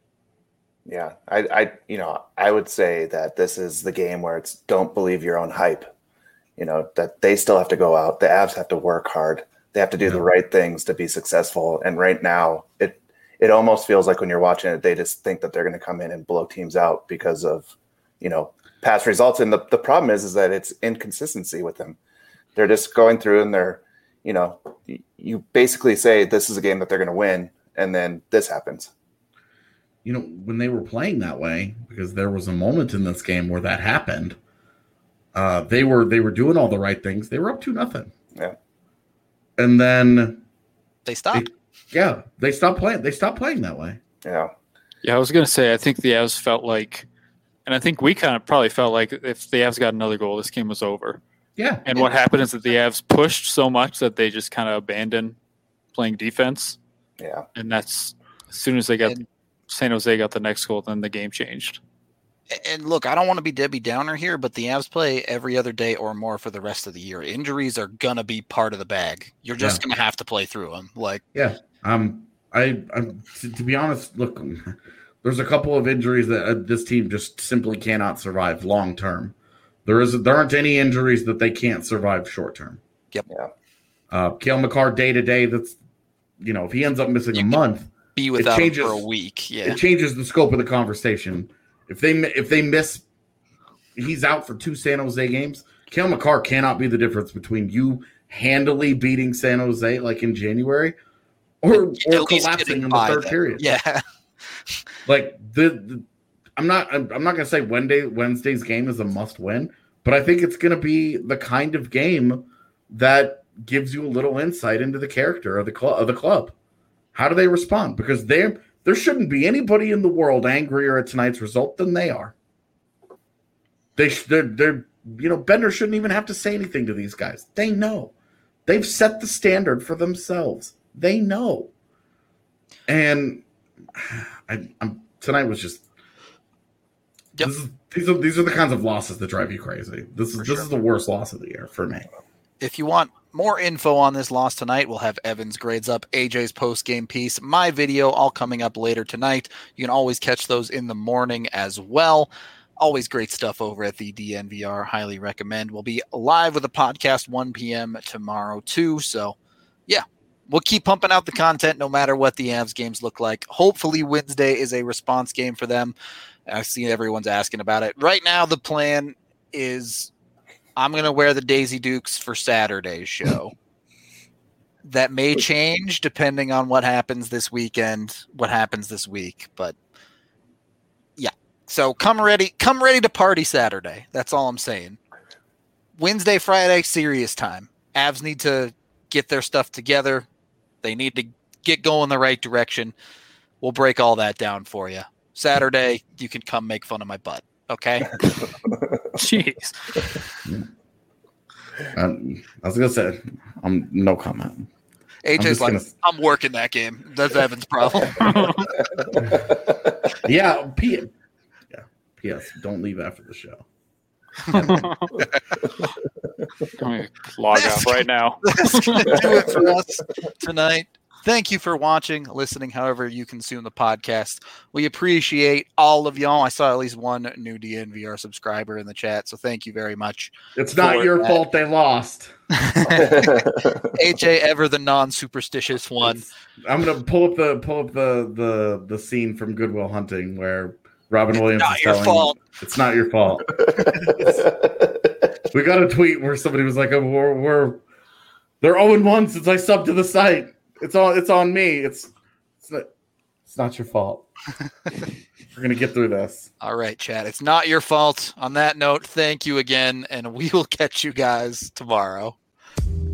Yeah, I, I, you know, I would say that this is the game where it's don't believe your own hype. You know, that they still have to go out. The Avs have to work hard. They have to do Yeah. the right things to be successful. And right now, it it almost feels like when you're watching it, they just think that they're going to come in and blow teams out because of, you know, past results. And the, the problem is, is that it's inconsistency with them. They're just going through and they're, you know, you basically say this is a game that they're going to win, and then this happens. You know, when they were playing that way, because there was a moment in this game where that happened, uh, they were they were doing all the right things. They were up to nothing. Yeah. And then They stopped. They, yeah, they stopped playing. They stopped playing that way. Yeah. Yeah, I was going to say, I think the Avs felt like, and I think we kind of probably felt like if the Avs got another goal, this game was over. Yeah. And what happened is that the Avs pushed so much that they just kind of abandoned playing defense. Yeah. And that's as soon as they got And- San Jose got the next goal, then the game changed. And look, I don't want to be Debbie Downer here, but the Avs play every other day or more for the rest of the year. Injuries are gonna be part of the bag. You're just Yeah. gonna have to play through them. Like, Yeah. Um. I. I'm. To, to be honest, look, there's a couple of injuries that uh, this team just simply cannot survive long term. There is. There aren't any injuries that they can't survive short term. Yep. Yeah. Uh, Cale Makar day to day. That's, you know, if he ends up missing You a can- month, be without him changes- for a week. Yeah. it changes the scope of the conversation. If they if they miss, he's out for two San Jose games. Cale Makar cannot be the difference between you handily beating San Jose like in January, or or At least collapsing getting in the by third them. period. Yeah. Like the, the I'm not I'm, I'm not gonna say Wednesday Wednesday's game is a must win, but I think it's gonna be the kind of game that gives you a little insight into the character of the club of the club. How do they respond? Because they there shouldn't be anybody in the world angrier at tonight's result than they are. They they're, they're you know Bednar shouldn't even have to say anything to these guys. They know. They've set the standard for themselves. They know. And I, I'm tonight was just Yep. this is, these are these are the kinds of losses that drive you crazy. This is For this sure. is the worst loss of the year for me. If you want more info on this loss tonight, we'll have Evan's grades up, A J's post-game piece, my video all coming up later tonight. You can always catch those in the morning as well. Always great stuff over at the D N V R. Highly recommend. We'll be live with a podcast one p.m. tomorrow too. So, yeah, we'll keep pumping out the content no matter what the Avs games look like. Hopefully Wednesday is a response game for them. I see everyone's asking about it. Right now, the plan is I'm going to wear the Daisy Dukes for Saturday's show. That may change depending on what happens this weekend, what happens this week. But yeah, so come ready, come ready to party Saturday. That's all I'm saying. Wednesday, Friday, serious time. Avs need to get their stuff together. They need to get going the right direction. We'll break all that down for you. Saturday, you can come make fun of my butt. Okay. Jeez. Um, I was gonna say, um, no comment. A J's just like, gonna- I'm working that game. That's Evan's problem. Yeah, P. Yeah, P S. Don't leave after the show. I'm going to log That's off right now. That's going to do it for us tonight. Thank you for watching, listening, however you consume the podcast. We appreciate all of y'all. I saw at least one new D N V R subscriber in the chat, so thank you very much. It's not your that. fault they lost. A J, ever the non-superstitious one. It's, I'm gonna pull up the pull up the the the scene from Good Will Hunting where Robin Williams not is your telling fault. It's not your fault. We got a tweet where somebody was like, oh, we're, we're they're oh and one since I subbed to the site. It's all it's on me. It's it's not it's not your fault. We're gonna get through this. All right, Chad. It's not your fault. On that note, thank you again, and we will catch you guys tomorrow.